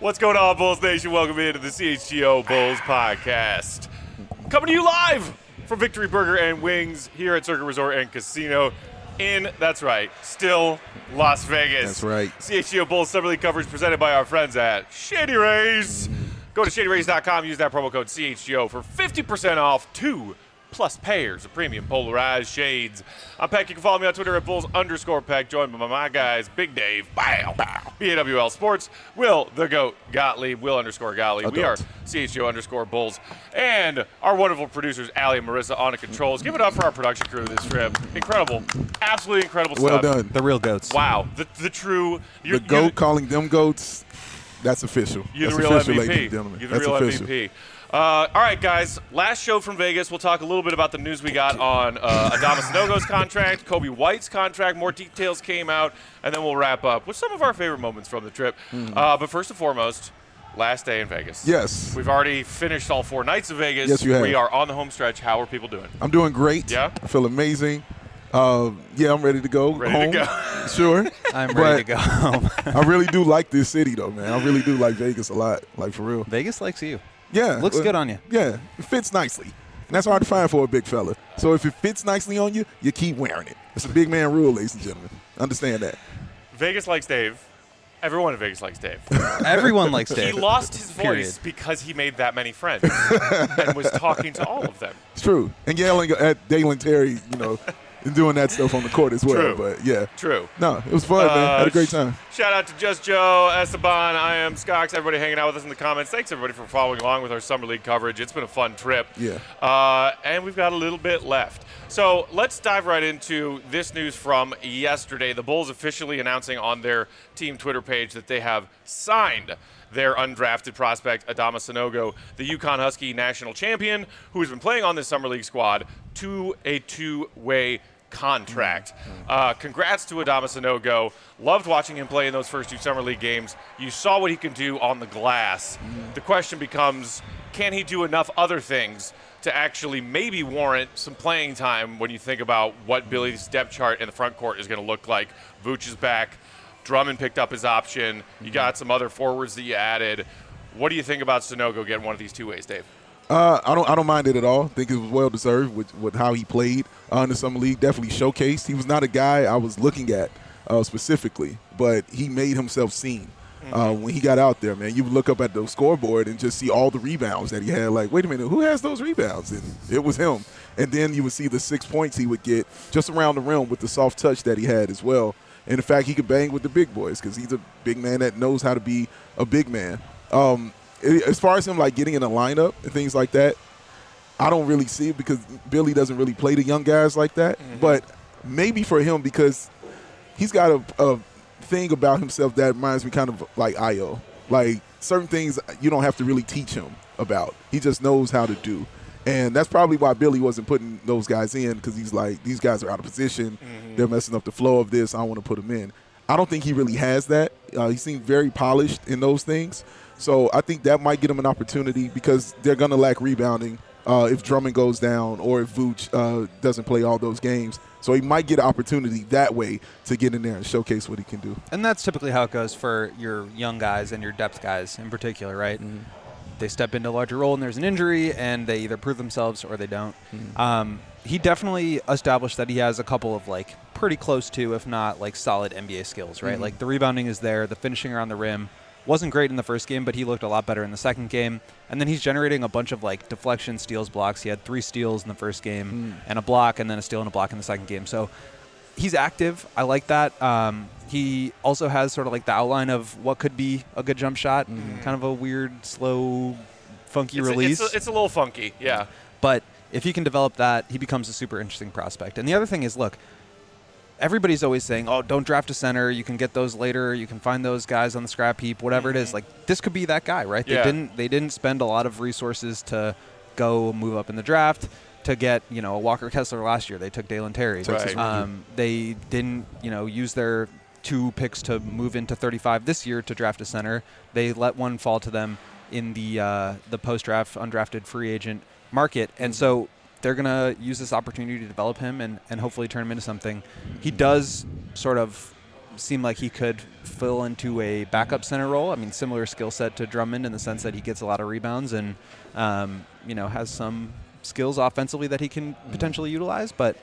What's going on, Bulls Nation? Welcome into the CHGO Bulls podcast. Coming to you live from Victory Burger and Wings here at Circuit Resort and Casino that's right, still Las Vegas. That's right. CHGO Bulls Summer League coverage presented by our friends at Shady Rays. Go to shadyrays.com, use that promo code CHGO for 50% off 2+ pairs of premium polarized shades. I'm Peck. You can follow me on Twitter at Bulls_Peck, joined by my guys, Big Dave, BAWL Sports, Will the Goat Gottlieb, Will_Gottlieb. We are CHGO_Bulls, and our wonderful producers, Allie and Marissa, on the controls. Give it up for our production crew this trip. Incredible. Absolutely incredible Well stuff. done. The real goats. Wow. The true. The GOAT calling them goats, that's official. You're that's the real official, MVP. ladies and gentlemen. You're the That's real official. MVP. All right, guys. Last show from Vegas. We'll talk a little bit about the news we got on Adama Sanogo's contract, Kobe White's contract. More details came out, and then we'll wrap up with some of our favorite moments from the trip. But first and foremost, last day in Vegas. Yes. We've already finished all 4 nights of Vegas. Yes, you have. We are on the home stretch. How are people doing? I'm doing great. Yeah? I feel amazing. Yeah, I'm ready to go Ready to home. Sure. I'm ready to go home. I really do like this city, though, man. I really do like Vegas a lot, like for real. Vegas likes you. Yeah. Looks good on you. Yeah, it fits nicely. And that's hard to find for a big fella. So if it fits nicely on you, you keep wearing it. It's a big man rule, ladies and gentlemen. Understand that. Vegas likes Dave. Everyone in Vegas likes Dave. Everyone likes Dave. He lost his voice Period. because he made that many friends and was talking to all of them. It's true. And yelling at Dalen Terry, and doing that stuff on the court as well. True. But, yeah. True. No, it was fun, man. Had a great time. Shout out to Just Joe, Esteban, I am Skox, everybody hanging out with us in the comments. Thanks, everybody, for following along with our Summer League coverage. It's been a fun trip. Yeah. And we've got a little bit left. So let's dive right into this news from yesterday. The Bulls officially announcing on their team Twitter page that they have signed their undrafted prospect, Adama Sanogo, the UConn Husky national champion, who has been playing on this Summer League squad, to a 2-way contract. Congrats to Adama Sanogo. Loved watching him play in those first 2 Summer League games. You saw what he can do on the glass. The question becomes, can he do enough other things to actually maybe warrant some playing time when you think about what Billy's depth chart in the front court is going to look like? Vooch is back. Drummond picked up his option. You got some other forwards that you added. What do you think about Sanogo getting one of these 2 ways, Dave? I don't mind it at all. I think it was well deserved with how he played in the Summer League. Definitely showcased. He was not a guy I was looking at specifically, but he made himself seen when he got out there, man. You look up at the scoreboard and just see all the rebounds that he had. Like, wait a minute, who has those rebounds? And it was him. And then you would see the 6 points he would get just around the rim with the soft touch that he had as well. And the fact he could bang with the big boys because he's a big man that knows how to be a big man. As far as him like getting in a lineup and things like that, I don't really see it because Billy doesn't really play the young guys like that. But maybe for him because he's got a thing about himself that reminds me kind of like Ayo. Like certain things you don't have to really teach him about. He just knows how to do. And that's probably why Billy wasn't putting those guys in because he's like, these guys are out of position. They're messing up the flow of this. I don't want to put them in. I don't think he really has that. He seemed very polished in those things. So I think that might get him an opportunity because they're going to lack rebounding if Drummond goes down or if Vooch doesn't play all those games. So he might get an opportunity that way to get in there and showcase what he can do. And that's typically how it goes for your young guys and your depth guys in particular, right? They step into a larger role and there's an injury and they either prove themselves or they don't. He definitely established that he has a couple of like pretty close to, if not like solid NBA skills, right? Like the rebounding is there, the finishing around the rim. Wasn't great in the first game, but he looked a lot better in the second game. And then he's generating a bunch of like deflection, steals, blocks. He had 3 steals in the first game and a block, and then a steal and a block in the second game. So he's active. I like that. He also has sort of like the outline of what could be a good jump shot. Kind of a weird, slow, funky release. It's a little funky, yeah. But if he can develop that, he becomes a super interesting prospect. And the other thing is, look, everybody's always saying, oh, don't draft a center. You can get those later. You can find those guys on the scrap heap, whatever it is. Like, this could be that guy, right? Yeah. They didn't spend a lot of resources to go move up in the draft to get, a Walker Kessler last year. They took Dalen Terry. Right. They didn't, use their 2 picks to move into 35 this year to draft a center. They let one fall to them in the post-draft undrafted free agent market. And so they're going to use this opportunity to develop him and hopefully turn him into something. He does sort of seem like he could fill into a backup center role. I mean, similar skill set to Drummond in the sense that he gets a lot of rebounds and, has some skills offensively that he can potentially utilize. But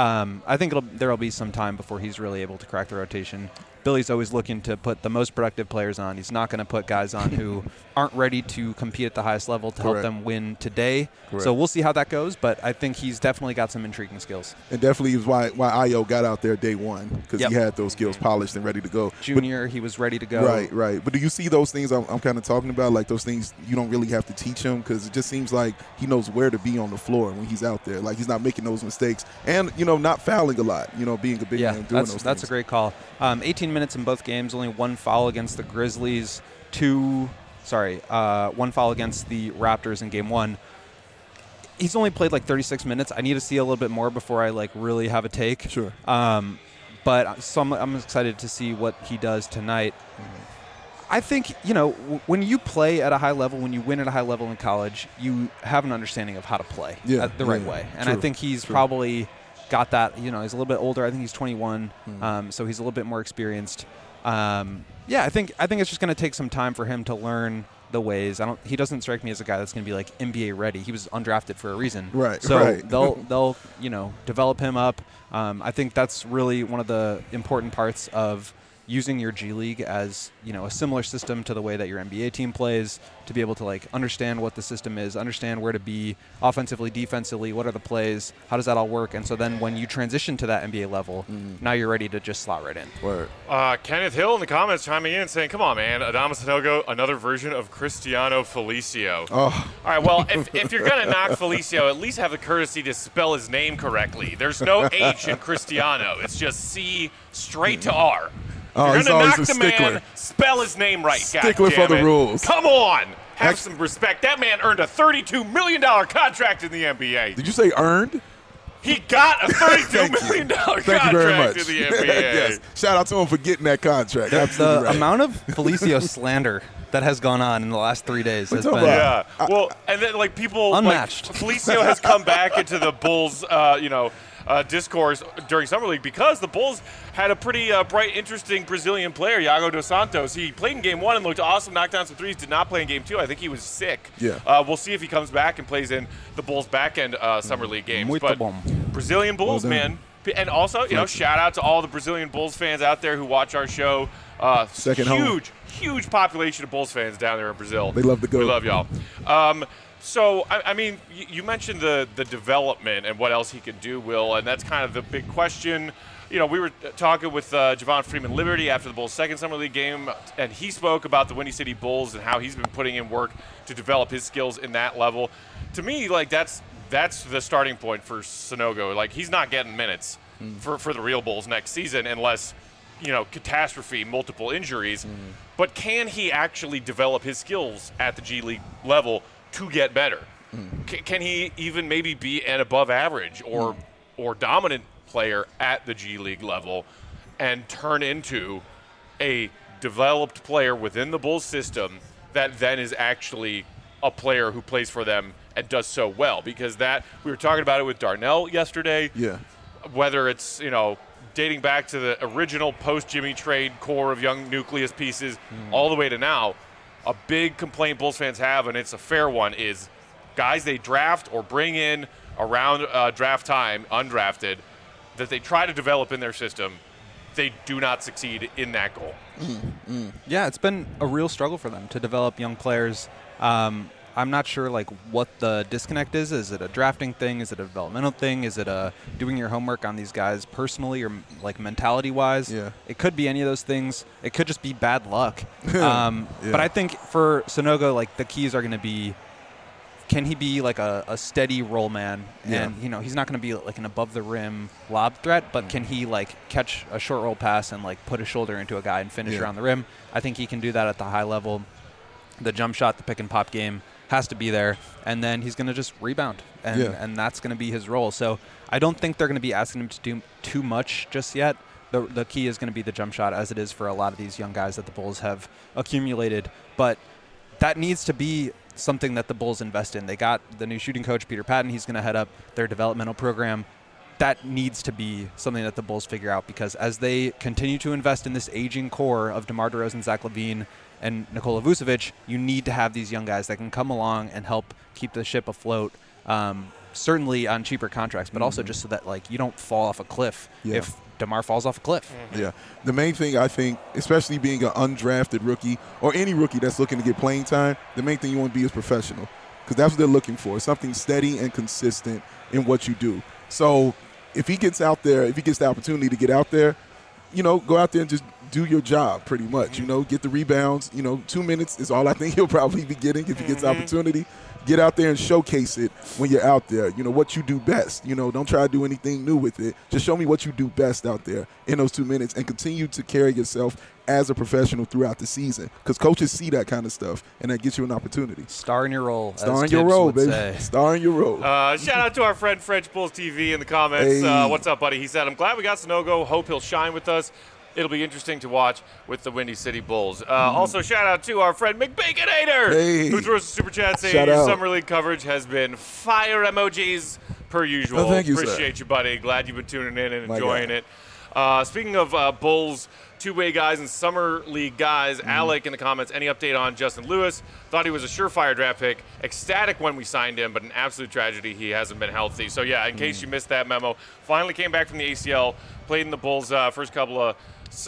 I think there will be some time before he's really able to crack the rotation. Billy's always looking to put the most productive players on. He's not going to put guys on who aren't ready to compete at the highest level to help them win today. Correct. So we'll see how that goes, but I think he's definitely got some intriguing skills. And definitely is why Ayo got out there day one, because he had those skills polished and ready to go. Junior, he was ready to go. Right. But do you see those things I'm kind of talking about, like those things you don't really have to teach him, because it just seems like he knows where to be on the floor when he's out there. Like he's not making those mistakes and, not fouling a lot, being a big man doing those things. That's a great call. 18 minutes in both games, only one foul against the Grizzlies, one foul against the Raptors in game one. He's only played like 36 minutes. I need to see a little bit more before I really have a take. Sure. But I'm excited to see what he does tonight. I think, when you play at a high level, when you win at a high level in college, you have an understanding of how to play the right way. And I think he's probably got that. He's a little bit older. I think he's 21, so he's a little bit more experienced. I think it's just going to take some time for him to learn the ways. He doesn't strike me as a guy that's going to be like NBA ready. He was undrafted for a reason. Right. So they'll develop him up. I think that's really one of the important parts of using your G League as, a similar system to the way that your NBA team plays, to be able to understand what the system is, understand where to be offensively, defensively, what are the plays, how does that all work? And so then when you transition to that NBA level, now you're ready to just slot right in. Word. Kenneth Hill in the comments chiming in saying, come on, man, Adama Sanogo, another version of Cristiano Felicio. Oh. All right, well, if you're going to knock Felicio, at least have the courtesy to spell his name correctly. There's no H in Cristiano. It's just C straight to R. Oh, you're he's going to always knock a the stickler. man, spell his name right. Stickler for the rules. Come on. Have some respect. That man earned a $32 million contract in the NBA. Did you say earned? He got a $32 million contract in the NBA. Yes. Shout out to him for getting that contract. The amount of Felicio slander that has gone on in the last 3 days has been and then people unmatched. Felicio has come back into the Bulls, discourse during Summer League because the Bulls had a pretty bright, interesting Brazilian player, Iago dos Santos. He played in Game 1 and looked awesome, knocked down some threes, did not play in Game 2. I think he was sick. Yeah. We'll see if he comes back and plays in the Bulls' back-end Summer League games. Muito but bom. Brazilian Bulls, man. And also, shout out to all the Brazilian Bulls fans out there who watch our show. Huge population of Bulls fans down there in Brazil. They love the GOAT. We love y'all. So, I mean, you mentioned the development and what else he could do, Will, and that's kind of the big question. We were talking with Javon Freeman-Liberty after the Bulls' second Summer League game, and he spoke about the Windy City Bulls and how he's been putting in work to develop his skills in that level. To me, that's the starting point for Sanogo. He's not getting minutes for the real Bulls next season unless, catastrophe, multiple injuries. But can he actually develop his skills at the G League level to get better? Can he even maybe be an above average or dominant player at the G League level and turn into a developed player within the Bulls system that then is actually a player who plays for them and does so well? Because we were talking about it with Darnell yesterday. Yeah. Whether it's, dating back to the original post-Jimmy trade core of young nucleus pieces all the way to now, a big complaint Bulls fans have, and it's a fair one, is guys they draft or bring in around draft time, undrafted, that they try to develop in their system, they do not succeed in that goal. Yeah, it's been a real struggle for them to develop young players. I'm not sure what the disconnect is. Is it a drafting thing? Is it a developmental thing? Is it a doing your homework on these guys personally or mentality-wise? Yeah. It could be any of those things. It could just be bad luck. But I think for Sanogo, the keys are going to be, can he be a steady roll man? And he's not going to be an above the rim lob threat, but can he catch a short roll pass and put a shoulder into a guy and finish around the rim? I think he can do that at the high level. The jump shot, the pick and pop game has to be there, and then he's going to just rebound, and that's going to be his role. So I don't think they're going to be asking him to do too much just yet. The key is going to be the jump shot, as it is for a lot of these young guys that the Bulls have accumulated. But that needs to be something that the Bulls invest in. They got the new shooting coach, Peter Patton. He's going to head up their developmental program. that needs to be something that the Bulls figure out, because as they continue to invest in this aging core of DeMar DeRozan, Zach LaVine, and Nikola Vucevic, you need to have these young guys that can come along and help keep the ship afloat, certainly on cheaper contracts, but also just so that like you don't fall off a cliff if DeMar falls off a cliff. Yeah. The main thing, I think, especially being an undrafted rookie or any rookie that's looking to get playing time, the main thing you want to be is professional, because that's what they're looking for, something steady and consistent in what you do. So if he gets out there, if he gets the opportunity to get out there, go out there and just do your job pretty much, get the rebounds. 2 minutes is all I think he'll probably be getting if he gets the opportunity. Get out there and showcase it when you're out there, what you do best. Don't try to do anything new with it. Just show me what you do best out there in those 2 minutes and continue to carry yourself as a professional throughout the season, because coaches see that kind of stuff, and that gets you an opportunity. Star in your role. Star in your role, baby. Star in your role. Shout out to our friend French Bulls TV in the comments. Hey. What's up, buddy? He said, I'm glad we got Sanogo. Hope he'll shine with us. It'll be interesting to watch with the Windy City Bulls. Also, shout out to our friend McBaconator, who threw us a super chat saying your Summer League coverage has been fire emojis per usual. Oh, thank you, Appreciate sir. you, buddy. Glad you've been tuning in and My enjoying God. it. Speaking of Bulls two-way guys and Summer League guys, Alec in the comments, any update on Justin Lewis? Thought he was a surefire draft pick. Ecstatic when we signed him, but an absolute tragedy he hasn't been healthy. So, yeah, in case you missed that memo, finally came back from the ACL, played in the Bulls' first couple of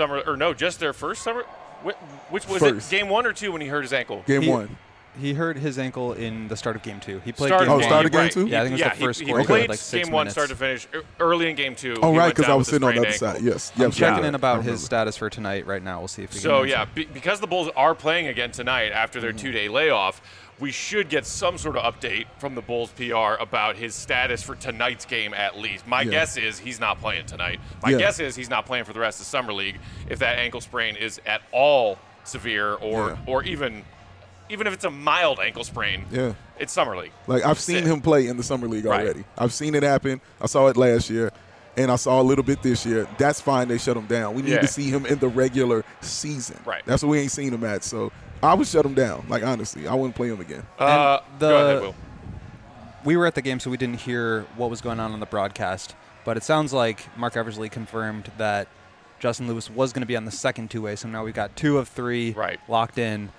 just their first summer. Which was First. it, game 1 or 2 when he hurt his ankle? Game 1. He hurt his ankle in the start of game 2. He played Start game of one. started game right. 2? Yeah, I think it was the first he quarter. played Like 6 game 1 minutes. start to finish. Early in game 2. Oh, he right, went because down I was with a sitting on the other sprained side. ankle. Yes. I'm checking in I about remember. his status for tonight right now. We'll see if he So, can yeah, because the Bulls are playing again tonight after their 2-day layoff, we should get some sort of update from the Bulls PR about his status for tonight's game at least. My guess is he's not playing tonight. My guess is he's not playing for the rest of Summer League if that ankle sprain is at all severe or even if it's a mild ankle sprain. Yeah. It's Summer League. Like, I've seen him play in the Summer League Right. already. I've seen it happen. I saw it last year, and I saw a little bit this year. That's fine. They shut him down. We need to see him in the regular season. Right. That's what we ain't seen him at. So I would shut him down. Like, honestly, I wouldn't play him again. Go ahead, Will. We were at the game, so we didn't hear what was going on the broadcast. But it sounds like Mark Eversley confirmed that Justin Lewis was going to be on the second two-way. So now we've got 2 of 3 locked in.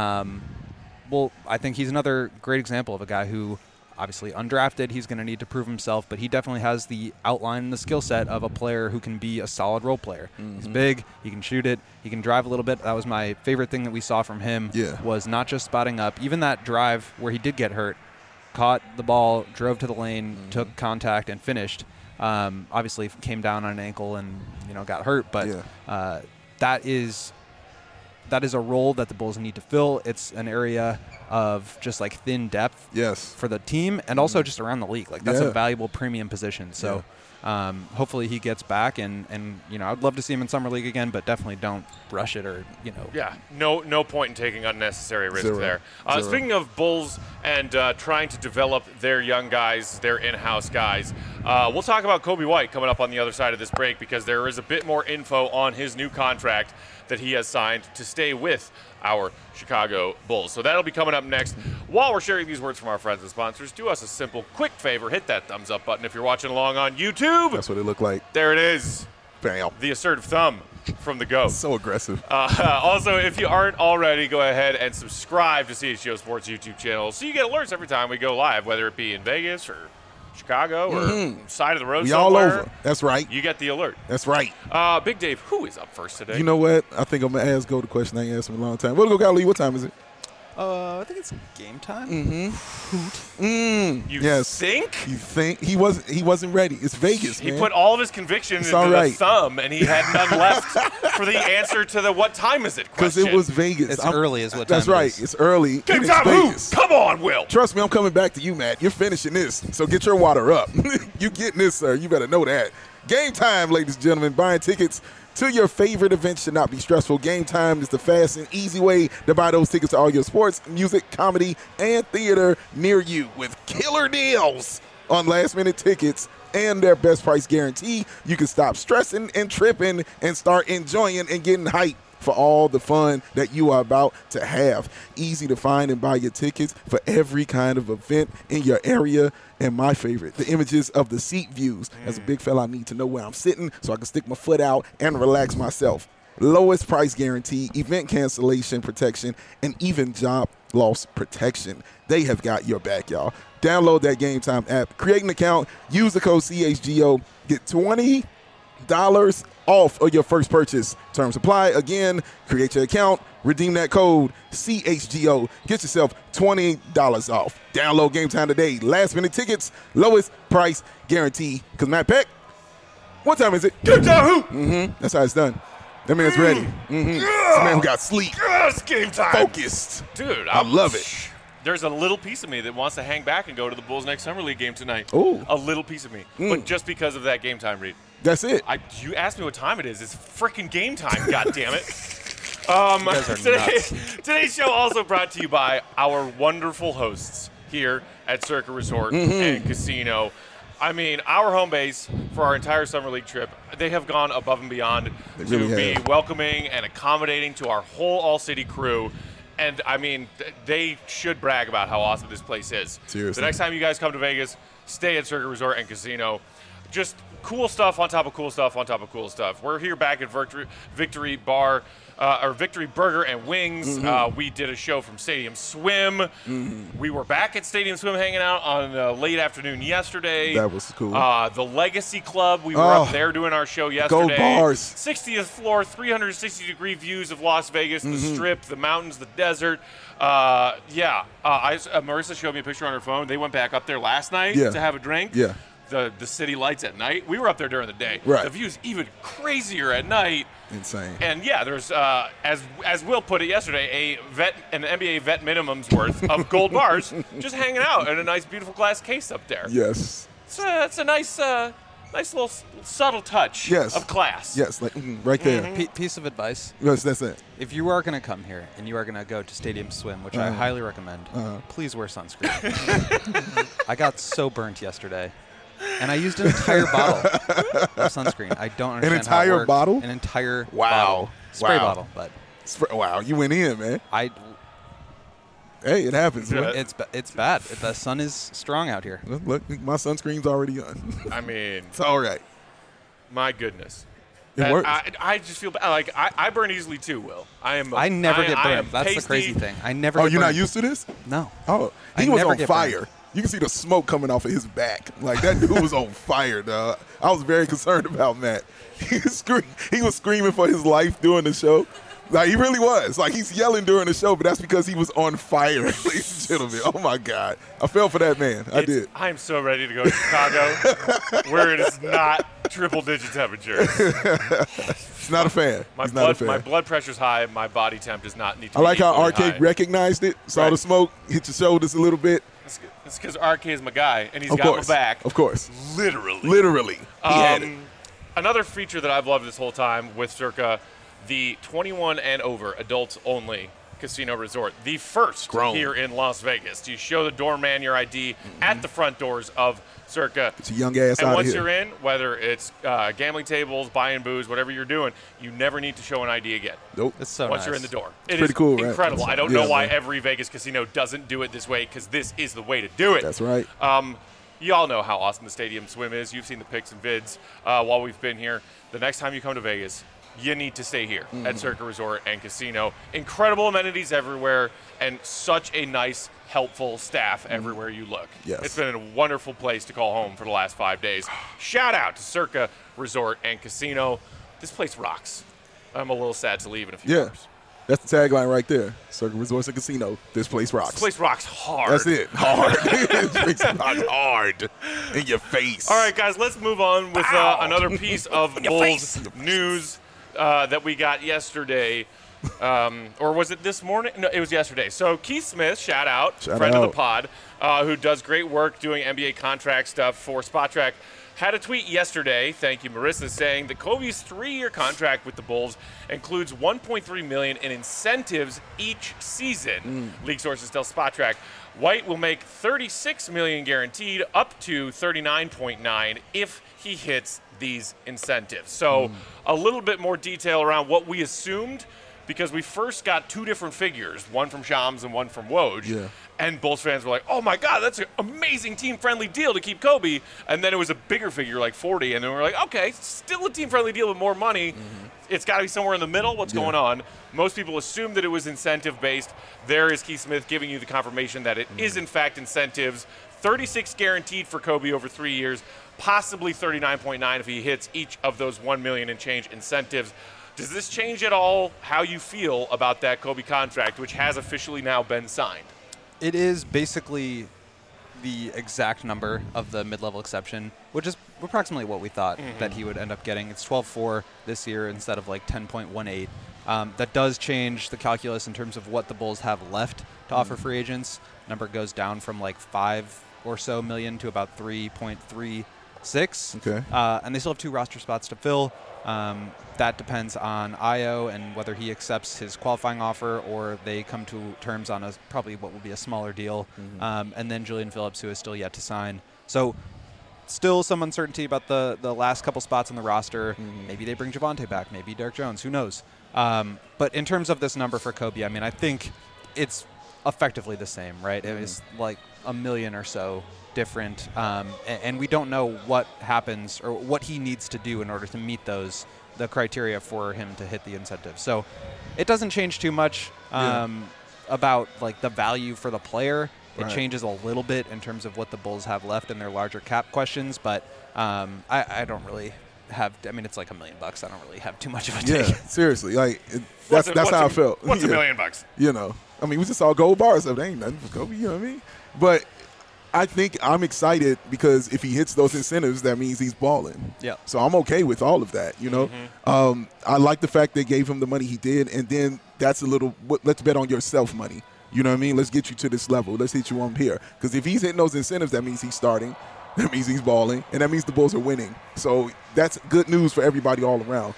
Well, I think he's another great example of a guy who, obviously undrafted, he's going to need to prove himself, but he definitely has the outline and the skill set of a player who can be a solid role player. He's big, he can shoot it, he can drive a little bit. That was my favorite thing that we saw from him, was not just spotting up. Even that drive where he did get hurt, caught the ball, drove to the lane, took contact, and finished. Obviously came down on an ankle and got hurt, but that is a role that the Bulls need to fill. It's an area of just like thin depth for the team and also just around the league. Like that's a valuable premium position. So hopefully he gets back and I'd love to see him in Summer League again, but definitely don't rush it or. Yeah, no point in taking unnecessary risk there. Speaking of Bulls and trying to develop their young guys, their in-house guys, we'll talk about Kobe White coming up on the other side of this break because there is a bit more info on his new contract that he has signed to stay with our Chicago Bulls. So that'll be coming up next. While we're sharing these words from our friends and sponsors, do us a simple, quick favor. Hit that thumbs up button if you're watching along on YouTube. That's what it looked like. There it is. Bam. The assertive thumb from the GOAT. So aggressive. Also, if you aren't already, go ahead and subscribe to CHGO Sports YouTube channel so you get alerts every time we go live, whether it be in Vegas or Chicago or side of the road We somewhere. all over. That's right. You get the alert. That's right. Big Dave, who is up first today? You know what? I think I'm going to ask Go the question I ain't asked him in a long time. We'll go, Golly. What time is it? I think it's game time. You Yes. think? You think? He wasn't ready. It's Vegas, He man. put all of his conviction into all the right. thumb, and he had none left for the answer to the what time is it Because question. it was Vegas. It's early is what That's time it right. is. It's early. Game and time it's who? Vegas. Come on, Will. Trust me, I'm coming back to you, Matt. You're finishing this. So get your water up. You getting this, sir. You better know that. Game time, ladies and gentlemen. Buying tickets to your favorite events should not be stressful. Game Time is the fast and easy way to buy those tickets to all your sports, music, comedy, and theater near you with killer deals on last-minute tickets and their best price guarantee. You can stop stressing and tripping and start enjoying and getting hyped for all the fun that you are about to have. Easy to find and buy your tickets for every kind of event in your area. And my favorite, the images of the seat views. As a big fella, I need to know where I'm sitting so I can stick my foot out and relax myself. Lowest price guarantee, event cancellation protection, and even job loss protection. They have got your back, y'all. Download that Game Time app, create an account, use the code CHGO, get $20 off of your first purchase. Terms apply. Again, create your account, redeem that code CHGO, get yourself $20 off. Download Game Time today. Last minute tickets, lowest price guarantee. Because Matt Peck, what time is it? Game time! That's how it's done. That man's ready. It's a man who got sleep. Yes, game time. Focused. Dude, I love it. There's a little piece of me that wants to hang back and go to the Bulls' next Summer League game tonight. Ooh. A little piece of me. But just because of that game time read. That's it. You asked me what time it is. It's freaking game time, God damn it. guys are nuts. Today's show also brought to you by our wonderful hosts here at Circa Resort and Casino. I mean, our home base for our entire Summer League trip, they have gone above and beyond They to really be have. welcoming and accommodating to our whole All-City crew. And, I mean, they should brag about how awesome this place is. Seriously. The next time you guys come to Vegas, stay at Circa Resort and Casino. Just cool stuff on top of cool stuff on top of cool stuff. We're here back at Victory Bar, or Victory Burger and Wings. We did a show from Stadium Swim. We were back at Stadium Swim hanging out on late afternoon yesterday. That was cool. The Legacy Club, we were up there doing our show yesterday. Gold bars. 60th floor, 360-degree views of Las Vegas, the Strip, the mountains, the desert. Marissa showed me a picture on her phone. They went back up there last night Yeah. to have a drink. Yeah. The city lights at night. We were up there during the day. Right. The view's even crazier at night. Insane. And yeah, there's as Will put it yesterday, an NBA vet minimum's worth of gold bars just hanging out in a nice, beautiful glass case up there. Yes. It's a nice little subtle touch Yes. of class. Yes, like right there. Piece of advice. Yes, that's it. If you are going to come here and you are going to go to Stadium Swim, which I highly recommend, please wear sunscreen. I got so burnt yesterday. And I used an entire bottle of sunscreen. I don't understand entire how it worked. bottle? An entire Wow. bottle. Spray Wow. bottle, but Wow, you went in, man. Hey, it happens. Man. it's bad. The sun is strong out here. Look, my sunscreen's already on. I mean, It's all right. my goodness. It works. I just feel bad. Like I burn easily too, Will. I never get I am burned. That's the pasty. crazy thing. I never Oh, get you're not burned. used to this? No. Oh, I he was never on get fire. burned. You can see the smoke coming off of his back. Like, that dude was on fire, dog. I was very concerned about Matt. He was screaming for his life during the show. Like, he really was. Like, he's yelling during the show, but that's because he was on fire, ladies and gentlemen. Oh, my God. I fell for that man. I did. I am so ready to go to Chicago where it is not triple-digit temperatures. He's not a fan. He's not a fan. My blood pressure's high. My body temp does not need to I like be how equally Arcade high. recognized it, saw the Right. smoke, hit your shoulders a little bit. It's because RK is my guy, and he's Of got course. my back. Of course. Literally. Literally. He had it. Another feature that I've loved this whole time with Circa, the 21 and over adults only casino resort, the first Grown. here in Las Vegas. You show the doorman your ID at the front doors of Circa. It's a young ass And out of once here. you're in, whether it's gambling tables, buying booze, whatever you're doing, you never need to show an ID again. Nope. It's so Once nice. you're in the door. It pretty is cool, right? incredible. I don't Yeah, know why man. every Vegas casino doesn't do it this way, because this is the way to do it. That's right. You all know how awesome the Stadium Swim is. You've seen the pics and vids while we've been here. The next time you come to Vegas, you need to stay here at Circa Resort and Casino. Incredible amenities everywhere and such a nice, helpful staff everywhere you look. Yes. It's been a wonderful place to call home for the last 5 days. Shout out to Circa Resort and Casino. This place rocks. I'm a little sad to leave in a few Yeah. hours. That's the tagline right there. Circa Resorts and Casino. This place rocks. This place rocks hard. That's it. Hard. This place rocks hard. In your face. All right, guys, let's move on with another piece of Bulls news that we got yesterday. Or was it this morning? No, it was yesterday. So Keith Smith, shout out, friend of the pod, who does great work doing NBA contract stuff for SpotTrack, had a tweet yesterday, thank you, Marissa, saying that Kobe's 3-year contract with the Bulls includes $1.3 million in incentives each season. League sources tell SpotTrack. White will make $36 million guaranteed, up to $39.9 if he hits these incentives. So a little bit more detail around what we assumed because we first got two different figures, one from Shams and one from Woj. Yeah. And Bulls fans were like, oh, my God, that's an amazing team-friendly deal to keep Kobe. And then it was a bigger figure, like 40. And then we're like, okay, still a team-friendly deal with more money. It's got to be somewhere in the middle. What's going on? Most people assume that it was incentive-based. There is Keith Smith giving you the confirmation that it is, in fact, incentives. 36 guaranteed for Kobe over 3 years, possibly 39.9 if he hits each of those $1 million and change incentives. Does this change at all how you feel about that Kobe contract, which has officially now been signed? It is basically the exact number of the mid-level exception, which is approximately what we thought that he would end up getting. It's 12.4 this year instead of like 10.18. That does change the calculus in terms of what the Bulls have left to offer free agents. Number goes down from like 5 or so million to about 3.36. Okay. And they still have 2 roster spots to fill. That depends on Io and whether he accepts his qualifying offer or they come to terms on a probably what will be a smaller deal. And then Julian Phillips, who is still yet to sign. So still some uncertainty about the last couple spots on the roster. Maybe they bring Javonte back. Maybe Derek Jones. Who knows? But in terms of this number for Kobe, I mean, I think it's effectively the same, right? It was like $1 million or so different, and we don't know what happens or what he needs to do in order to meet the criteria for him to hit the incentive. So it doesn't change too much about like the value for the player. It changes a little bit in terms of what the Bulls have left in their larger cap questions, but I don't really have. I mean, it's like $1 million. I don't really have too much of a take. Yeah, seriously, like that's how I felt. What's $1 million? You know, I mean, we just saw gold bars. So they ain't nothing for Kobe. You know what I mean? But I think I'm excited because if he hits those incentives, that means he's balling. Yeah. So I'm okay with all of that, you know. I like the fact they gave him the money he did, and then that's a little, let's bet on yourself money. You know what I mean? Let's get you to this level. Let's hit you on here. Because if he's hitting those incentives, that means he's starting. That means he's balling. And that means the Bulls are winning. So that's good news for everybody all around.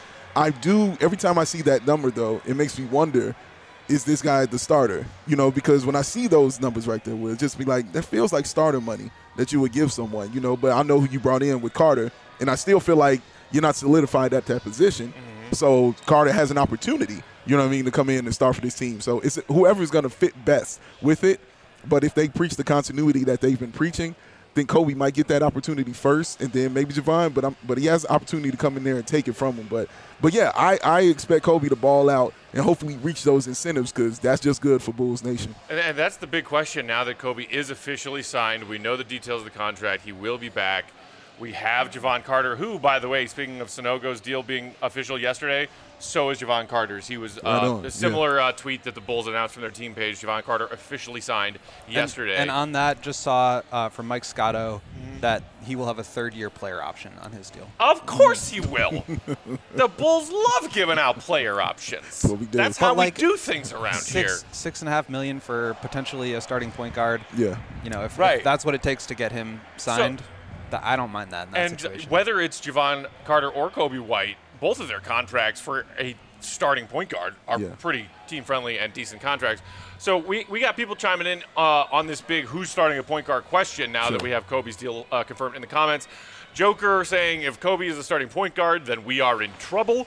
Every time I see that number, though, it makes me wonder, is this guy the starter? You know, because when I see those numbers right there, it'll just be like, that feels like starter money that you would give someone, you know. But I know who you brought in with Carter, and I still feel like you're not solidified at that position. So Carter has an opportunity, you know what I mean, to come in and start for this team. So it's whoever's going to fit best with it. But if they preach the continuity that they've been preaching, then Kobe might get that opportunity first, and then maybe Javon. But he has the opportunity to come in there and take it from him. But yeah, I expect Kobe to ball out and hopefully reach those incentives because that's just good for Bulls Nation. And that's the big question now that Kobe is officially signed. We know the details of the contract. He will be back. We have Javon Carter, who, by the way, speaking of Sanogo's deal being official yesterday, so is Javon Carter's. He was a similar tweet that the Bulls announced from their team page. Javon Carter officially signed yesterday. And on that, just saw from Mike Scotto that he will have a third-year player option on his deal. Of course he will. The Bulls love giving out player options. That's how we do things around here. $6.5 million for potentially a starting point guard. Yeah. You know, if that's what it takes to get him signed, I don't mind that in that situation. And whether it's Javon Carter or Kobe White, both of their contracts for a starting point guard are pretty team-friendly and decent contracts. So we got people chiming in on this big who's starting a point guard question now that we have Kobe's deal confirmed in the comments. Joker saying if Kobe is a starting point guard, then we are in trouble.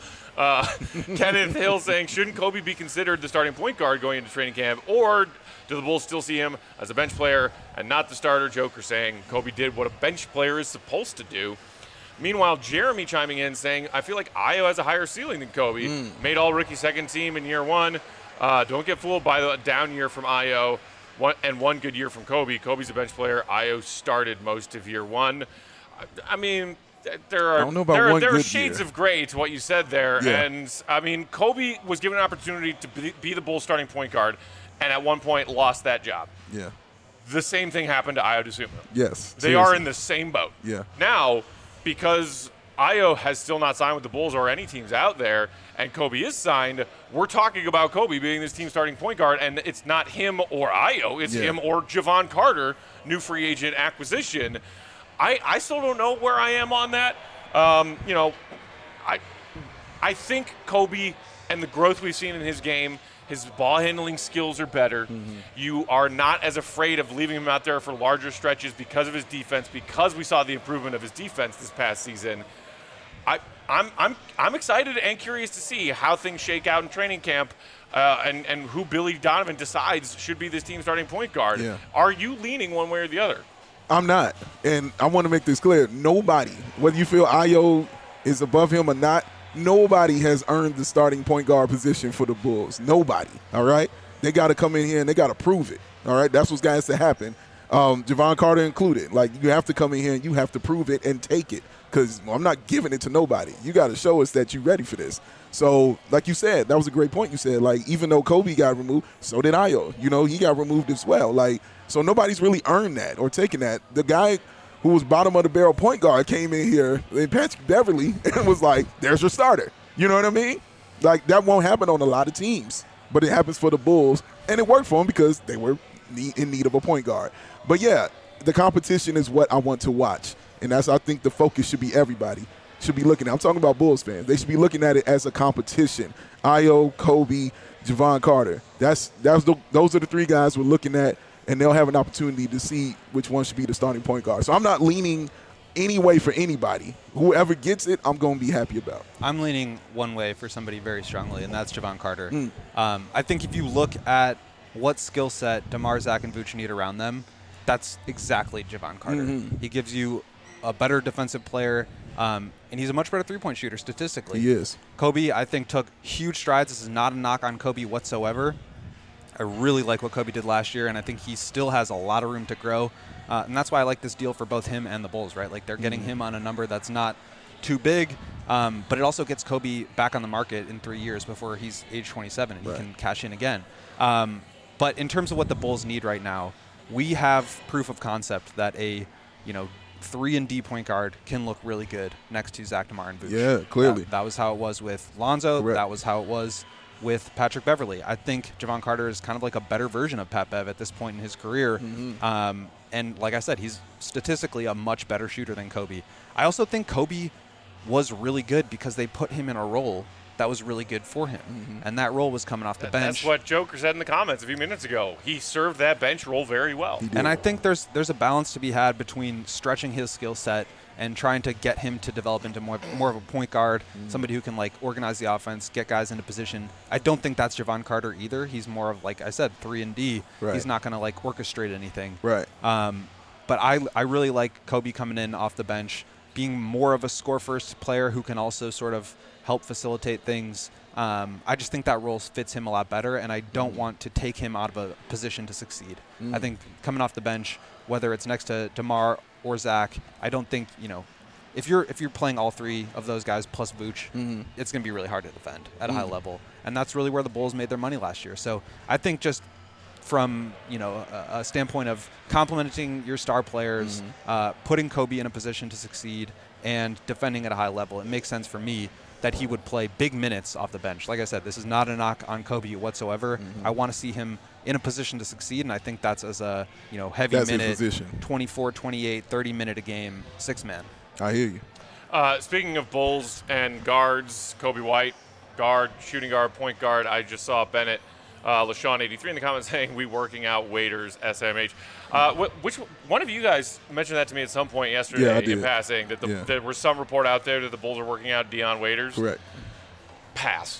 Kenneth Hill saying shouldn't Kobe be considered the starting point guard going into training camp, or do the Bulls still see him as a bench player and not the starter? Joker saying Kobe did what a bench player is supposed to do. Meanwhile, Jeremy chiming in saying, I feel like Io has a higher ceiling than Kobe. Made all-rookie second team in year one. Don't get fooled by the down year from Io and one good year from Kobe. Kobe's a bench player. Io started most of year one. I mean, there are shades of gray to what you said there. Yeah. And, I mean, Kobe was given an opportunity to be the Bulls starting point guard and at one point lost that job. Yeah. The same thing happened to Io DeSumo. Yes. They are in the same boat. Yeah. Now, because Io has still not signed with the Bulls or any teams out there, and Kobe is signed, we're talking about Kobe being this team starting point guard, and it's not him or Io, it's him or Javon Carter, new free agent acquisition. I still don't know where I am on that. You know, I think Kobe and the growth we've seen in his game, his ball handling skills are better. You are not as afraid of leaving him out there for larger stretches because of his defense, because we saw the improvement of his defense this past season. I'm excited and curious to see how things shake out in training camp, and who Billy Donovan decides should be this team starting point guard. Yeah. Are you leaning one way or the other? I'm not. And I want to make this clear. Nobody, whether you feel Ayo is above him or not, nobody has earned the starting point guard position for the Bulls. Nobody, all right? They got to come in here and they got to prove it, all right? That's what's got to happen. Javon Carter included. Like, you have to come in here and you have to prove it and take it, because I'm not giving it to nobody. You got to show us that you're ready for this. So, like you said, that was a great point you said. Like, even though Kobe got removed, so did Ayo. You know, he got removed as well. Like, so nobody's really earned that or taken that. The guy who was bottom of the barrel point guard came in here, Patrick Beverly, and was like, there's your starter. You know what I mean? Like, that won't happen on a lot of teams, but it happens for the Bulls, and it worked for them because they were in need of a point guard. But, yeah, the competition is what I want to watch, and that's, I think, the focus should be everybody should be looking at. I'm talking about Bulls fans. They should be looking at it as a competition. Ayo, Kobe, Javon Carter. Those are the three guys we're looking at, and they'll have an opportunity to see which one should be the starting point guard. So I'm not leaning any way for anybody. Whoever gets it, I'm going to be happy about. I'm leaning one way for somebody very strongly, and that's Javon Carter. I think if you look at what skill set DeMar, Zach, and Vooch need around them, that's exactly Javon Carter. He gives you a better defensive player, and he's a much better three-point shooter statistically. He is. Kobe, I think, took huge strides. This is not a knock on Kobe whatsoever. I really like what Kobe did last year, and I think he still has a lot of room to grow. And that's why I like this deal for both him and the Bulls, right? Like, they're getting him on a number that's not too big, but it also gets Kobe back on the market in 3 years before he's age 27 and he can cash in again. But in terms of what the Bulls need right now, we have proof of concept that a 3-and-D point guard can look really good next to Zach, DeMar, and Vooch. Yeah, clearly. That was how it was with Lonzo. Correct. That was how it was with Patrick Beverly. I think Javon Carter is kind of like a better version of Pat Bev at this point in his career. And like I said, he's statistically a much better shooter than Kobe. I also think Kobe was really good because they put him in a role that was really good for him. And that role was coming off the bench. That's what Joker said in the comments a few minutes ago. He served that bench role very well. And I think there's a balance to be had between stretching his skill set and trying to get him to develop into more of a point guard, somebody who can, like, organize the offense, get guys into position. I don't think that's Javon Carter either. He's more of, like I said, 3-and-D. Right. He's not going to, like, orchestrate anything. Right. But I really like Kobe coming in off the bench, being more of a score-first player who can also sort of help facilitate things. I just think that role fits him a lot better, and I don't want to take him out of a position to succeed. I think coming off the bench, whether it's next to DeMar or Zach, I don't think, if you're playing all three of those guys plus Vooch, it's going to be really hard to defend at a high level. And that's really where the Bulls made their money last year. So I think just from a standpoint of complementing your star players, putting Kobe in a position to succeed, and defending at a high level, it makes sense for me that he would play big minutes off the bench. Like I said, this is not a knock on Kobe whatsoever. I want to see him in a position to succeed, and I think that's as a heavy minute, 24, 28, 30-minute a game, six-man. I hear you. Speaking of Bulls and guards, Kobe White, guard, shooting guard, point guard, I just saw Bennett, LaShawn83 in the comments saying, we working out waiters, SMH. Which one of you guys mentioned that to me at some point yesterday in passing, that there was some report out there that the Bulls are working out Dion Waiters? Correct. Pass.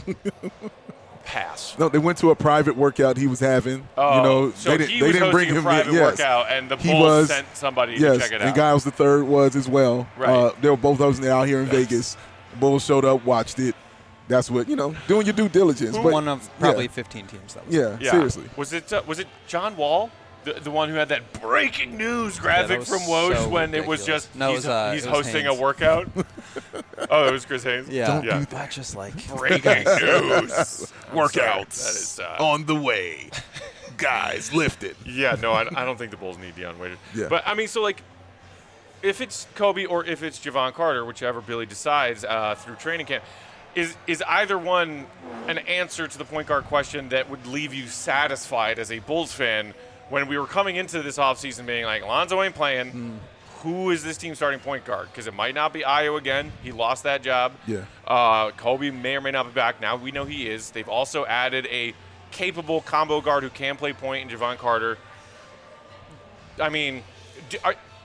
No, they went to a private workout he was having. So they didn't bring him in. Private workout, and the Bulls sent somebody to check it out. And Giles III was as well. Right. They were both of them out here in Vegas. Bulls showed up, watched it. That's what, doing your due diligence. But one of probably 15 teams that was. Yeah, seriously. Was it John Wall? The one who had that breaking news graphic from Woj when ridiculous. It was just he's hosting Haynes. a workout? Oh, it was Chris Haynes? Yeah. Don't do that. Just like breaking news. Workouts on the way. Guys, lift it. Yeah, no, I don't think the Bulls need Dion Waiters. Yeah. But, I mean, so, like, if it's Kobe or if it's Javon Carter, whichever Billy decides through training camp, is either one an answer to the point guard question that would leave you satisfied as a Bulls fan when we were coming into this offseason being like, Lonzo ain't playing, who is this team starting point guard? Because it might not be Ayo again. He lost that job. Yeah. Kobe may or may not be back. Now we know he is. They've also added a capable combo guard who can play point in Javon Carter. I mean,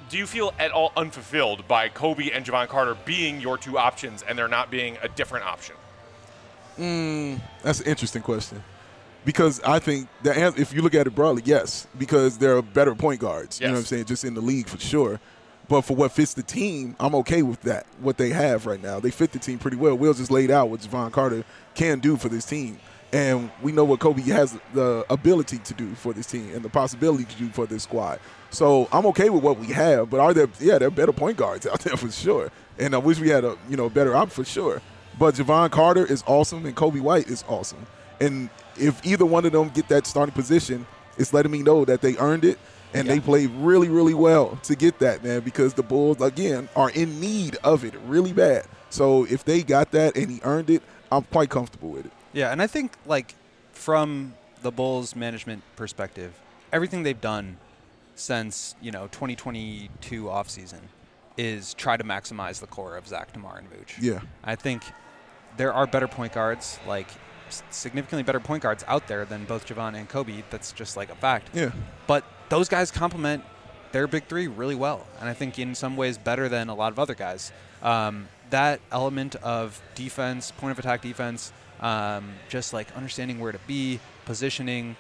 do you feel at all unfulfilled by Kobe and Javon Carter being your two options and there not being a different option? That's an interesting question. Because I think the answer, if you look at it broadly, yes, because there are better point guards, you know what I'm saying, just in the league for sure. But for what fits the team, I'm okay with that, what they have right now. They fit the team pretty well. Will just laid out what Javon Carter can do for this team. And we know what Kobe has the ability to do for this team and the possibility to do for this squad. So I'm okay with what we have. But there are better point guards out there for sure. And I wish we had a better option for sure. But Javon Carter is awesome and Kobe White is awesome. And if either one of them get that starting position, it's letting me know that they earned it and they played really, really well to get that, man, because the Bulls, again, are in need of it really bad. So if they got that and he earned it, I'm quite comfortable with it. Yeah, and I think, like, from the Bulls management perspective, everything they've done since, 2022 offseason is try to maximize the core of Zach, DeMar, and Vooch. Yeah. I think there are better point guards, like significantly better point guards out there than both Javon and Kobe. That's just like a fact. Yeah. But those guys complement their big three really well, and I think in some ways better than a lot of other guys. That element of defense, point of attack defense, just like understanding where to be, positioning,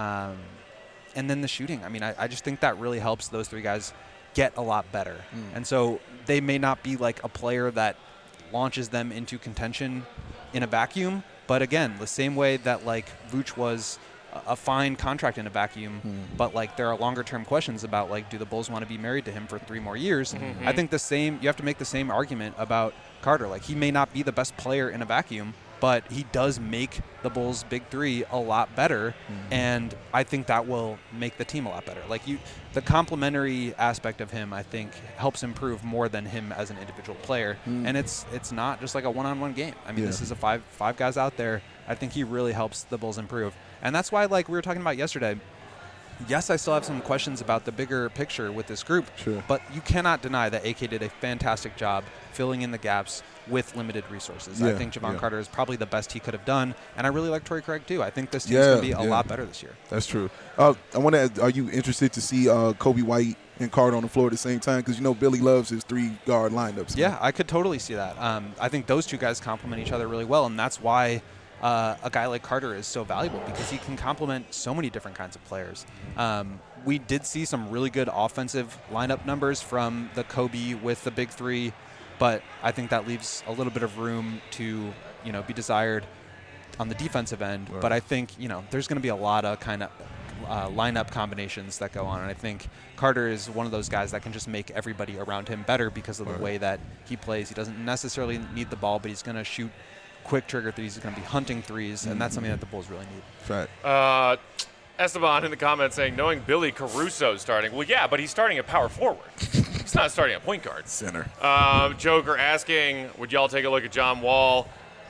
and then the shooting. I mean, I just think that really helps those three guys get a lot better. And so they may not be like a player that launches them into contention in a vacuum, but again, the same way that like Vooch was a fine contract in a vacuum, but like there are longer term questions about like, do the Bulls want to be married to him for 3 more years? I think you have to make the same argument about Carter. Like, he may not be the best player in a vacuum, but he does make the Bulls' big three a lot better, and I think that will make the team a lot better. Like, the complementary aspect of him, I think, helps improve more than him as an individual player, and it's not just like a one-on-one game. I mean, this is a five guys out there. I think he really helps the Bulls improve, and that's why, like we were talking about yesterday, yes, I still have some questions about the bigger picture with this group, but you cannot deny that AK did a fantastic job filling in the gaps with limited resources. I think Javon Carter is probably the best he could have done, and I really like Torrey Craig too. I think this team's going to be a lot better this year. That's true. I want to ask, are you interested to see Kobe White and Carter on the floor at the same time? Because Billy loves his 3-guard lineups. Yeah, I could totally see that. I think those two guys complement each other really well, and that's why a guy like Carter is so valuable, because he can complement so many different kinds of players. We did see some really good offensive lineup numbers from the Kobe with the big three, but I think that leaves a little bit of room to, be desired on the defensive end. Right. But I think, there's going to be a lot of kind of lineup combinations that go on, and I think Carter is one of those guys that can just make everybody around him better because of the way that he plays. He doesn't necessarily need the ball, but he's going to shoot quick trigger threes. He's going to be hunting threes, and that's something that the Bulls really need. Fact. Esteban in the comments saying, knowing Billy Caruso starting. Well, yeah, but he's starting at power forward. He's not starting at point guard. Center. Joker asking, would y'all take a look at John Wall?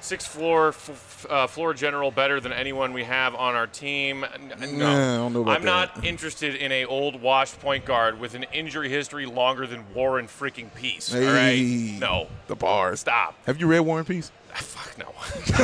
6'4", floor general, better than anyone we have on our team. No, I don't know about I'm not interested in a old washed point guard with an injury history longer than Warren freaking Peace. Hey, all right? No. The bars. Stop. Have you read War and Peace? Fuck no.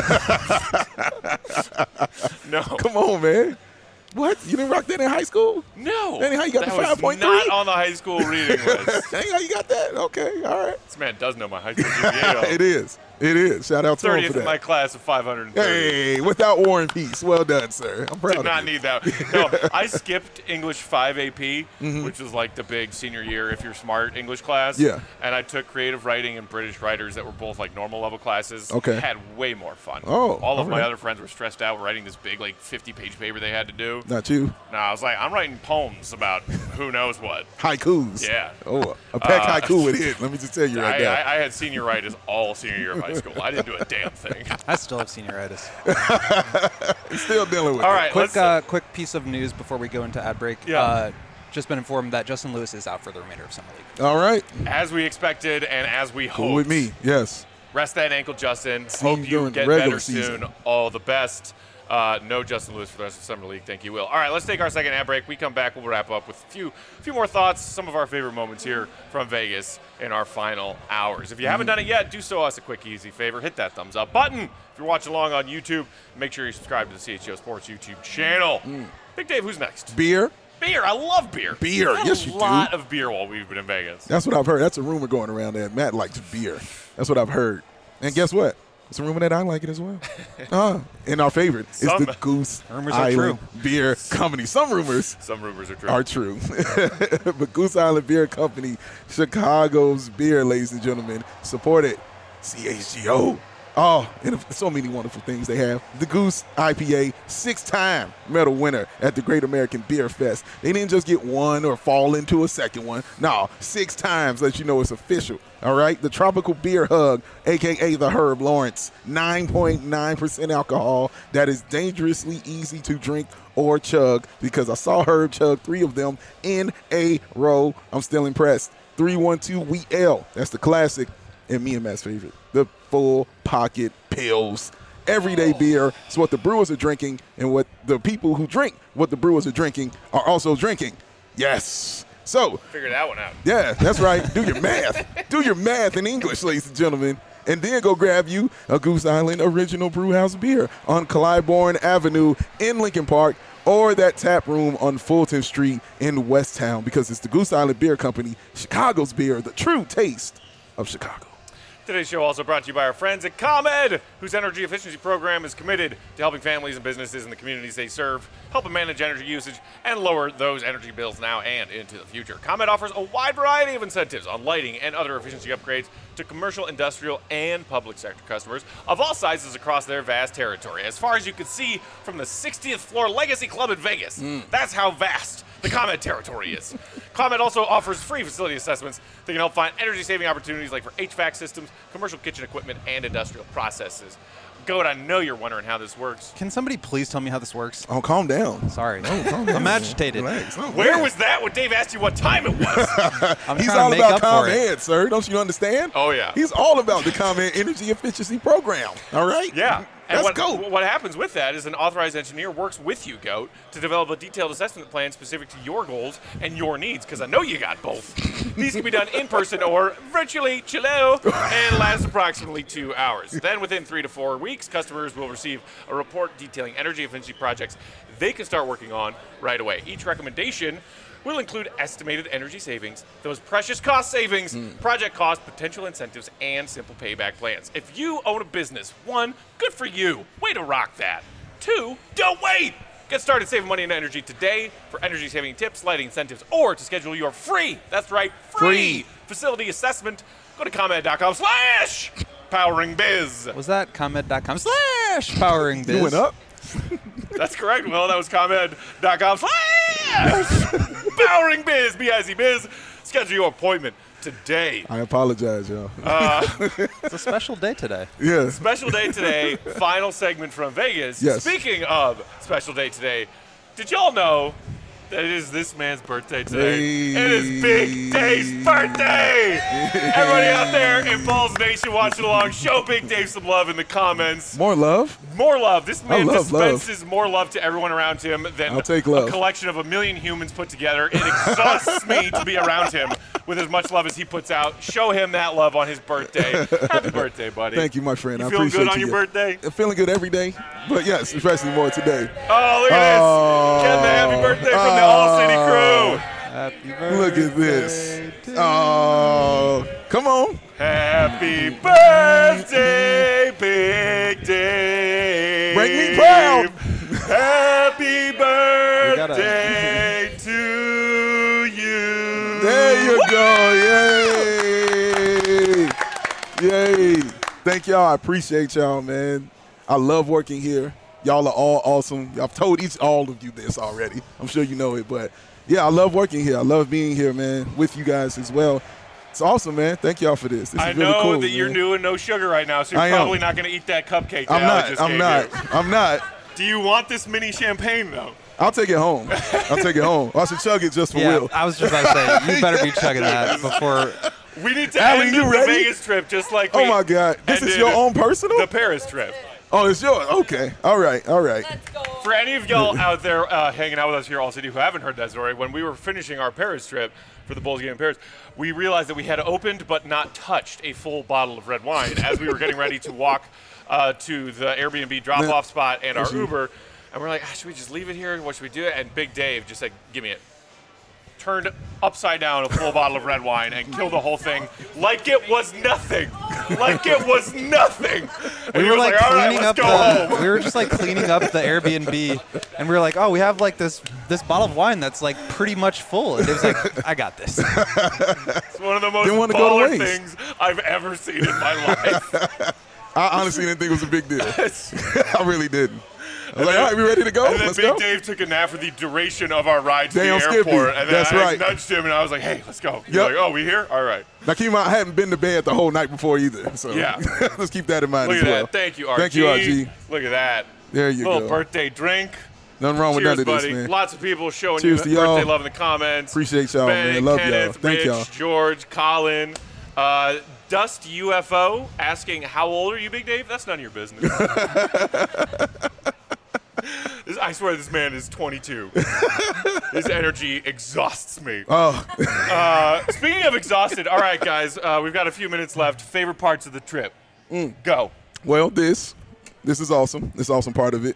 No. Come on, man. What? You didn't rock that in high school? No. That ain't how you got the 5.3? Not on the high school reading list. That ain't how you got that? Okay, all right. This man does know my high school GPA. It is. It is. Shout out to him for 30th that. in my class of 530. Hey, without War and Peace. Well done, sir. I'm proud of you. Did not need that. No, I skipped English 5 AP, which was like the big senior year, if you're smart, English class. Yeah. And I took creative writing and British writers that were both like normal level classes. Okay. Had way more fun. Oh, all of my right. other friends were stressed out writing this big like 50-page paper they had to do. Not you. No, I was like, I'm writing poems about who knows what. Haikus. Yeah. Oh, a pack haiku with it. Let me just tell you right now. I had senioritis all senior year of high school. I didn't do a damn thing. I still have senioritis. Still dealing with All it. right, Quick piece of news before we go into ad break. Yeah. Just been informed that Justin Lewis is out for the remainder of Summer League. All right. As we expected and as we hoped. Cool with me. Yes. Rest that ankle, Justin. See you Hope you during get the regular better season. soon. All the best. No Justin Lewis for the rest of Summer League. Thank you, Will. All right, let's take our second ad break. We come back, we'll wrap up with a few more thoughts, some of our favorite moments here from Vegas in our final hours. If you haven't done it yet, do so us a quick, easy favor. Hit that thumbs up button. If you're watching along on YouTube, make sure you subscribe to the CHGO Sports YouTube channel. Big Dave, who's next? Beer. Beer. I love beer. Beer. Had Yes, you do. A lot of beer while we've been in Vegas. That's what I've heard. That's a rumor going around that Matt likes beer. That's what I've heard. And guess what? It's a rumor that I like it as well. And our favorite is the Goose Rumors are Island true. Beer Company. Some rumors are true. But Goose Island Beer Company, Chicago's beer, ladies and gentlemen, supported CHGO. Oh, and so many wonderful things they have. The Goose IPA, 6-time medal winner at the Great American Beer Fest. They didn't just get one or fall into a second one. No, 6 times, let you know it's official. All right? The Tropical Beer Hug, a.k.a. the Herb Lawrence, 9.9% alcohol. That is dangerously easy to drink or chug because I saw Herb chug 3 of them in a row. I'm still impressed. 312 Wheat Ale, that's the classic. And me and Matt's favorite, the Full Pocket Pills. Everyday beer is what the brewers are drinking, and what the people who drink what the brewers are drinking are also drinking. Yes. So, figure that one out. Yeah, that's right. Do your math. Do your math in English, ladies and gentlemen. And then go grab you a Goose Island Original Brewhouse beer on Clybourne Avenue in Lincoln Park, or that tap room on Fulton Street in West Town, because it's the Goose Island Beer Company, Chicago's beer, the true taste of Chicago. Today's show also brought to you by our friends at ComEd, whose energy efficiency program is committed to helping families and businesses in the communities they serve, help them manage energy usage, and lower those energy bills now and into the future. ComEd offers a wide variety of incentives on lighting and other efficiency upgrades to commercial, industrial, and public sector customers of all sizes across their vast territory. As far as you can see from the 60th floor Legacy Club in Vegas, that's how vast the ComEd territory is. ComEd also offers free facility assessments that can help find energy-saving opportunities like for HVAC systems, commercial kitchen equipment, and industrial processes. Goat, I know you're wondering how this works. Can somebody please tell me how this works? Oh, calm down. Sorry. Oh, calm down. I'm agitated. Relax. Oh, Where man. was that when Dave asked you what time it was? I'm He's trying all to make about up for it. ComEd, sir. Don't you understand? Oh, yeah. He's all about the ComEd Energy Efficiency Program. All right? Yeah. And Let's go. what happens with that is an authorized engineer works with you, Goat, to develop a detailed assessment plan specific to your goals and your needs, because I know you got both. These can be done in person or virtually, chillo, and last approximately 2 hours. Then within 3 to 4 weeks, customers will receive a report detailing energy efficiency projects they can start working on right away. Each recommendation will include estimated energy savings, those precious cost savings, project costs, potential incentives, and simple payback plans. If you own a business, 1, good for you. Way to rock that. 2, don't wait. Get started saving money and energy today. For energy saving tips, lighting incentives, or to schedule your free, that's right, free facility assessment, go to ComEd.com/poweringbiz. Was that ComEd.com/poweringbiz? You went up? That's correct, Will. That was ComEd.com/poweringbiz, B-I-Z-biz. Schedule your appointment today. I apologize, y'all. It's a special day today. Yeah. Special day today, final segment from Vegas. Yes. Speaking of special day today, did y'all know that it is this man's birthday today? Hey. It is Big Dave's birthday! Everybody out there in Balls Nation watching along, show Big Dave some love in the comments. More love? More love. This man love dispenses more love to everyone around him than I'll take love. a collection of 1 million humans put together. It exhausts me to be around him with as much love as he puts out. Show him that love on his birthday. Happy birthday, buddy. Thank you, my friend. You I feeling appreciate good on your birthday? I'm feeling good every day, but yes, especially more today. Oh, look at this. Get the happy birthday from the All City crew. Happy birthday. Look at this. Oh, come on. Happy birthday, Big Dave. Make me proud. Happy birthday to you. There you go. Yay. Yay. Thank y'all. I appreciate y'all, man. I love working here. Y'all are all awesome. I've told all of you this already. I'm sure you know it, but yeah, I love working here. I love being here, man, with you guys as well. It's awesome, man. Thank y'all for this. This I is really know cool, that you're man. doing no sugar right now, so I you're am. probably not going to eat that cupcake that I'm Alex just not. gave I'm you. not. I'm not. Do you want this mini champagne, though? I'll take it home. I'll take it home. I should chug it just for Yeah, Will. I was just about to say, you better be chugging that before. We need to Allie, end you the ready? Vegas trip just like Oh we my God. This is ended your own personal? the Paris trip. Oh, it's yours. Okay. All right. Let's go. For any of y'all out there hanging out with us here at All City who haven't heard that story, when we were finishing our Paris trip for the Bulls game in Paris, we realized that we had opened but not touched a full bottle of red wine as we were getting ready to walk to the Airbnb drop-off spot and our Uber. And we're like, should we just leave it here? What should we do? And Big Dave just said, give me it. Turned upside down a full bottle of red wine and killed the whole thing like it was nothing. Like it was nothing. And We were like all right, cleaning up let's go home. we were just like cleaning up the Airbnb, and we were like, oh, we have like this bottle of wine that's like pretty much full. And it was like, I got this. It's one of the most Didn't want to go to baller waste. things I've ever seen in my life. I honestly didn't think it was a big deal. I really didn't. I was like, all right, we ready to go? And then Let's Big go. Dave took a nap for the duration of our ride to Damn the Skippy. airport. And then That's I right. nudged him, and I was like, hey, let's go. He's Yep. like, oh, we here? All right. Now, keep in mind, I hadn't been to bed the whole night before either. So Yeah. let's keep that in mind Look as at well. that. Thank you, RG. Thank you, RG. Look at that. There you Little go. birthday drink. Nothing wrong with Cheers, none of buddy. this, man. Lots of people showing Cheers you to y'all. birthday love in the comments. Appreciate y'all, Ben, man. Love y'all. Kenneth, Thank Rich, y'all. George, Colin, Dust UFO asking, how old are you, Big Dave? That's none of your business. I swear this man is 22. His energy exhausts me. Oh, Speaking of exhausted, all right, guys, we've got a few minutes left. Favorite parts of the trip? Go. well, this is awesome. This is awesome part of it.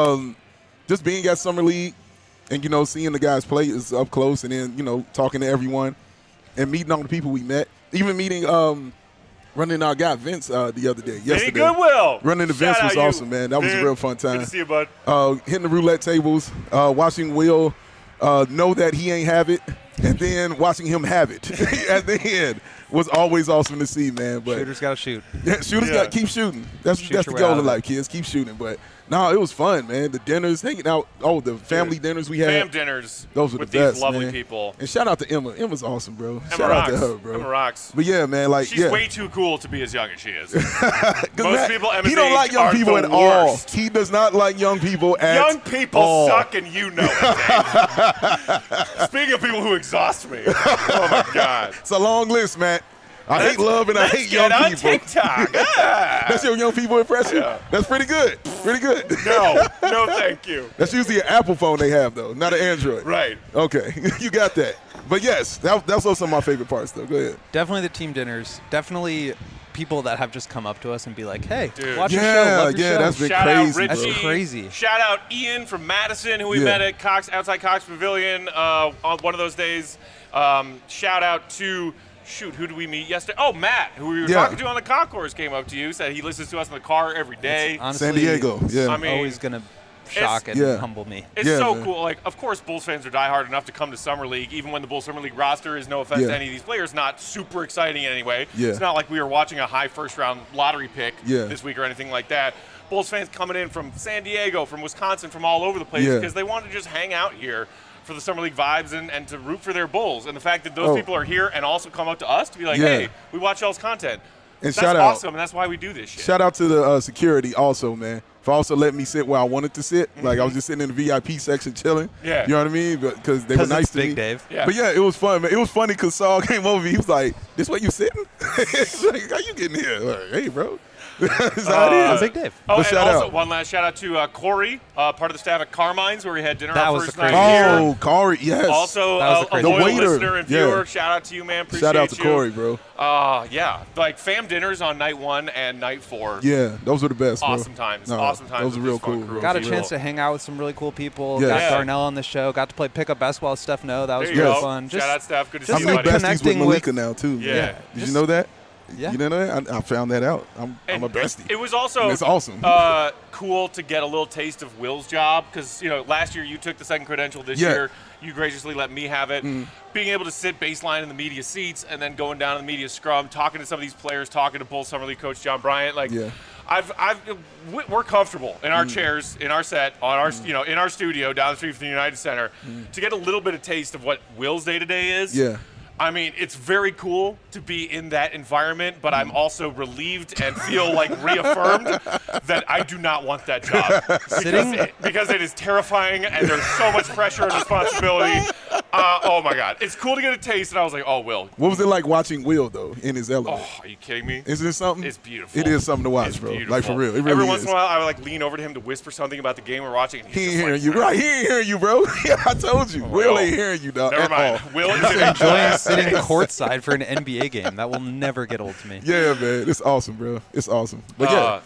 Just being at Summer League and, seeing the guys play is up close, and then, talking to everyone and meeting all the people we met. Even meeting running our guy Vince the other day, yesterday. Vinny Goodwill. Running the Shout Vince was out you. awesome, man. That was a Vin, real fun time. Good to see you, bud. Hitting the roulette tables, watching Will know that he ain't have it, and then watching him have it at the end was always awesome to see, man. But Shooters got to shoot. yeah, shooters Yeah. got keep shooting. That's Shoot the your way goal out in of it. life, kids. Keep shooting. But no, it was fun, man. The dinners, hanging out. Oh, the family dinners we had. Fam dinners Those were with the these best, lovely man. people. And shout out to Emma. Emma's awesome, bro. Emma Shout rocks. out to her, bro. Emma rocks. But yeah, man, like She's yeah. way too cool to be as young as she is. 'Cause Most people Emma's he don't age like young are people the at all. worst. He does not like young people at Young people all. suck, and you know it, Dave. Speaking of people who exhaust me, oh my God. It's a long list, Matt. I hate love and I Let's hate young get on people. TikTok. Ah. That's your young people impression? Yeah. That's pretty good. Pretty good. No, thank you. That's usually an Apple phone they have, though, not an Android. Right. Okay, you got that. But yes, that's also some of my favorite parts, though. Go ahead. Definitely the team dinners. Definitely people that have just come up to us and be like, hey, Dude. watch your show. Yeah, Love your yeah, show. that's been Shout crazy, out Richie. bro. That's crazy. Shout out Ian from Madison, who we Yeah. met at outside Cox Pavilion on one of those days. Shout out to, who did we meet yesterday? Oh, Matt, who we were Yeah. talking to on the concourse, came up to you, said he listens to us in the car every day. Honestly, San Diego, yeah. I mean, always going to shock and Yeah. humble me. It's Yeah, so man. cool. Like, of course, Bulls fans are diehard enough to come to Summer League, even when the Bulls Summer League roster is, no offense Yeah. to any of these players, not super exciting in any way. Yeah. It's not like we were watching a high first-round lottery pick Yeah. this week or anything like that. Bulls fans coming in from San Diego, from Wisconsin, from all over the place Yeah. because they want to just hang out here for the Summer League vibes and to root for their Bulls. And the fact that those Oh. people are here and also come up to us to be like, Yeah. hey, we watch y'all's content. And That's shout out. awesome, and that's why we do this shit. Shout out to the security also, man, for also letting me sit where I wanted to sit. Like I was just sitting in the VIP section chilling. Yeah. You know what I mean? Because they were 'Cause nice it's to Big me. Dave. Yeah. But yeah, it was fun, man. It was funny because Saul came over. He was like, "This where you sitting?" He's like, "How you getting here?" Like, hey, bro. That's how it is. Big Dave. Oh, But and shout also out. one last shout out to Corey, part of the staff at Carmine's, where we had dinner That our was first the night craziest here. Oh, Corey, yes. Also, That was the a craziest. loyal The waiter, listener and yeah. viewer. Shout out to you, man. Appreciate shout out to you. Corey, bro. Yeah, like fam dinners on night 1 and night 4. Yeah, those were the best, bro. Awesome times. No, Awesome times. Those were with real this fun cool, crew. bro. Got a For chance real. to hang out with some really cool people. Yes. Got Yeah. Darnell on the show. Got to play pickup basketball with Steph No. That was There you really go. fun. Shout out, Steph. Good to just see I'm you, like new buddy. besties with connecting Malika with- now, too. Yeah. Did Just- you know that? Yeah. You didn't know that? I found that out. I'm a And bestie. It was also And it's awesome. Cool to get a little taste of Will's job because last year you took the second credential. This Yeah. year you graciously let me have it. Being able to sit baseline in the media seats and then going down in the media scrum, talking to some of these players, talking to Bulls Summer League coach John Bryant, like. Yeah. We're comfortable in our chairs, in our set, on our in our studio down the street from the United Center, to get a little bit of taste of what Will's day to day is. Yeah. I mean, it's very cool to be in that environment, but I'm also relieved and feel like reaffirmed that I do not want that job because it is terrifying and there's so much pressure and responsibility. Oh my God, it's cool to get a taste, and I was like, oh, Will. What was it like watching Will, though, in his element? Oh, are you kidding me? Isn't it something? It's beautiful. It is something to watch, It's bro. beautiful. Like, for real. It really Every is. once in a while, I would like lean over to him to whisper something about the game we're watching. And He he's ain't just hearing like, you. Right, he ain't hearing you, bro. Yeah, I told you. Will ain't hearing you, dog. Never at mind. all. Will is Enjoying sitting courtside for an NBA game. That will never get old to me. Yeah, man. It's awesome, bro. It's awesome. But yeah,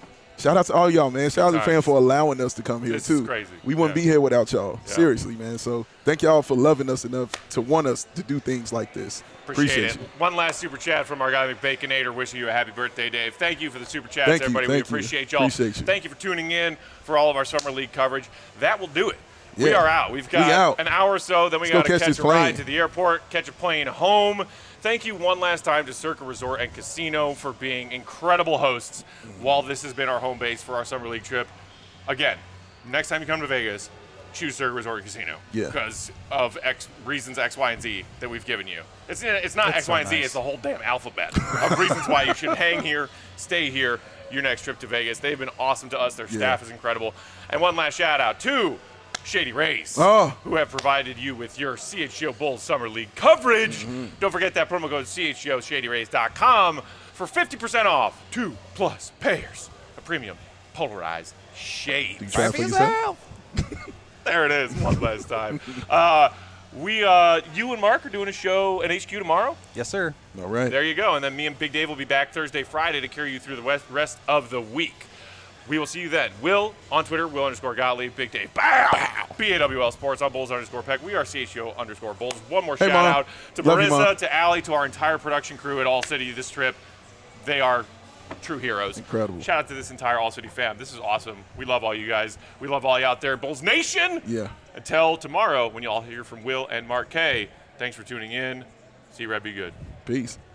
Shout out to all y'all, man. Shout out to the Times. fans for allowing us to come here, This too. is crazy. We wouldn't Yeah. be here without y'all. Yeah. Seriously, man. So thank y'all for loving us enough to want us to do things like this. Appreciate it. you. One last super chat from our guy McBaconator wishing you a happy birthday, Dave. Thank you for the super chats, Thank you, everybody. We thank you. appreciate y'all. Appreciate you. Thank you for tuning in for all of our Summer League coverage. That will do it. We Yeah. are out. We've We got out. an hour or so, then we Let's go got to catch catch this a ride plane. to the airport, catch a plane home. Thank you one last time to Circa Resort and Casino for being incredible hosts while this has been our home base for our Summer League trip. Again, next time you come to Vegas, choose Circa Resort and Casino. Yeah. Because of reasons X, Y, and Z that we've given you. It's not That's X, so Y, and Z. nice. It's the whole damn alphabet of reasons why you should hang here, stay here, your next trip to Vegas. They've been awesome to us. Their staff is incredible. And one last shout out to Shady Rays, who have provided you with your CHGO Bulls Summer League coverage. Don't forget that promo code CHGOShadyRays.com for 50% off 2+ pairs of premium polarized shades. You trying for yourself? There it is, one last time. You and Mark are doing a show at HQ tomorrow. Yes, sir. All right. There you go. And then me and Big Dave will be back Thursday, Friday to carry you through the rest of the week. We will see you then. Will on Twitter, Will_Gottlieb, Big Dave, bow, BAWL Sports on Bulls_Peck. We are CHGO_Bulls. One more Hey, shout Mom. out to Love you, Mom. Marissa, to Allie, to our entire production crew at All City this trip. They are true heroes. Incredible. Shout out to this entire All City fam. This is awesome. We love all you guys. We love all you out there. Bulls Nation. Yeah. Until tomorrow when you all hear from Will and Mark K. Thanks for tuning in. See you, Red. Be good. Peace.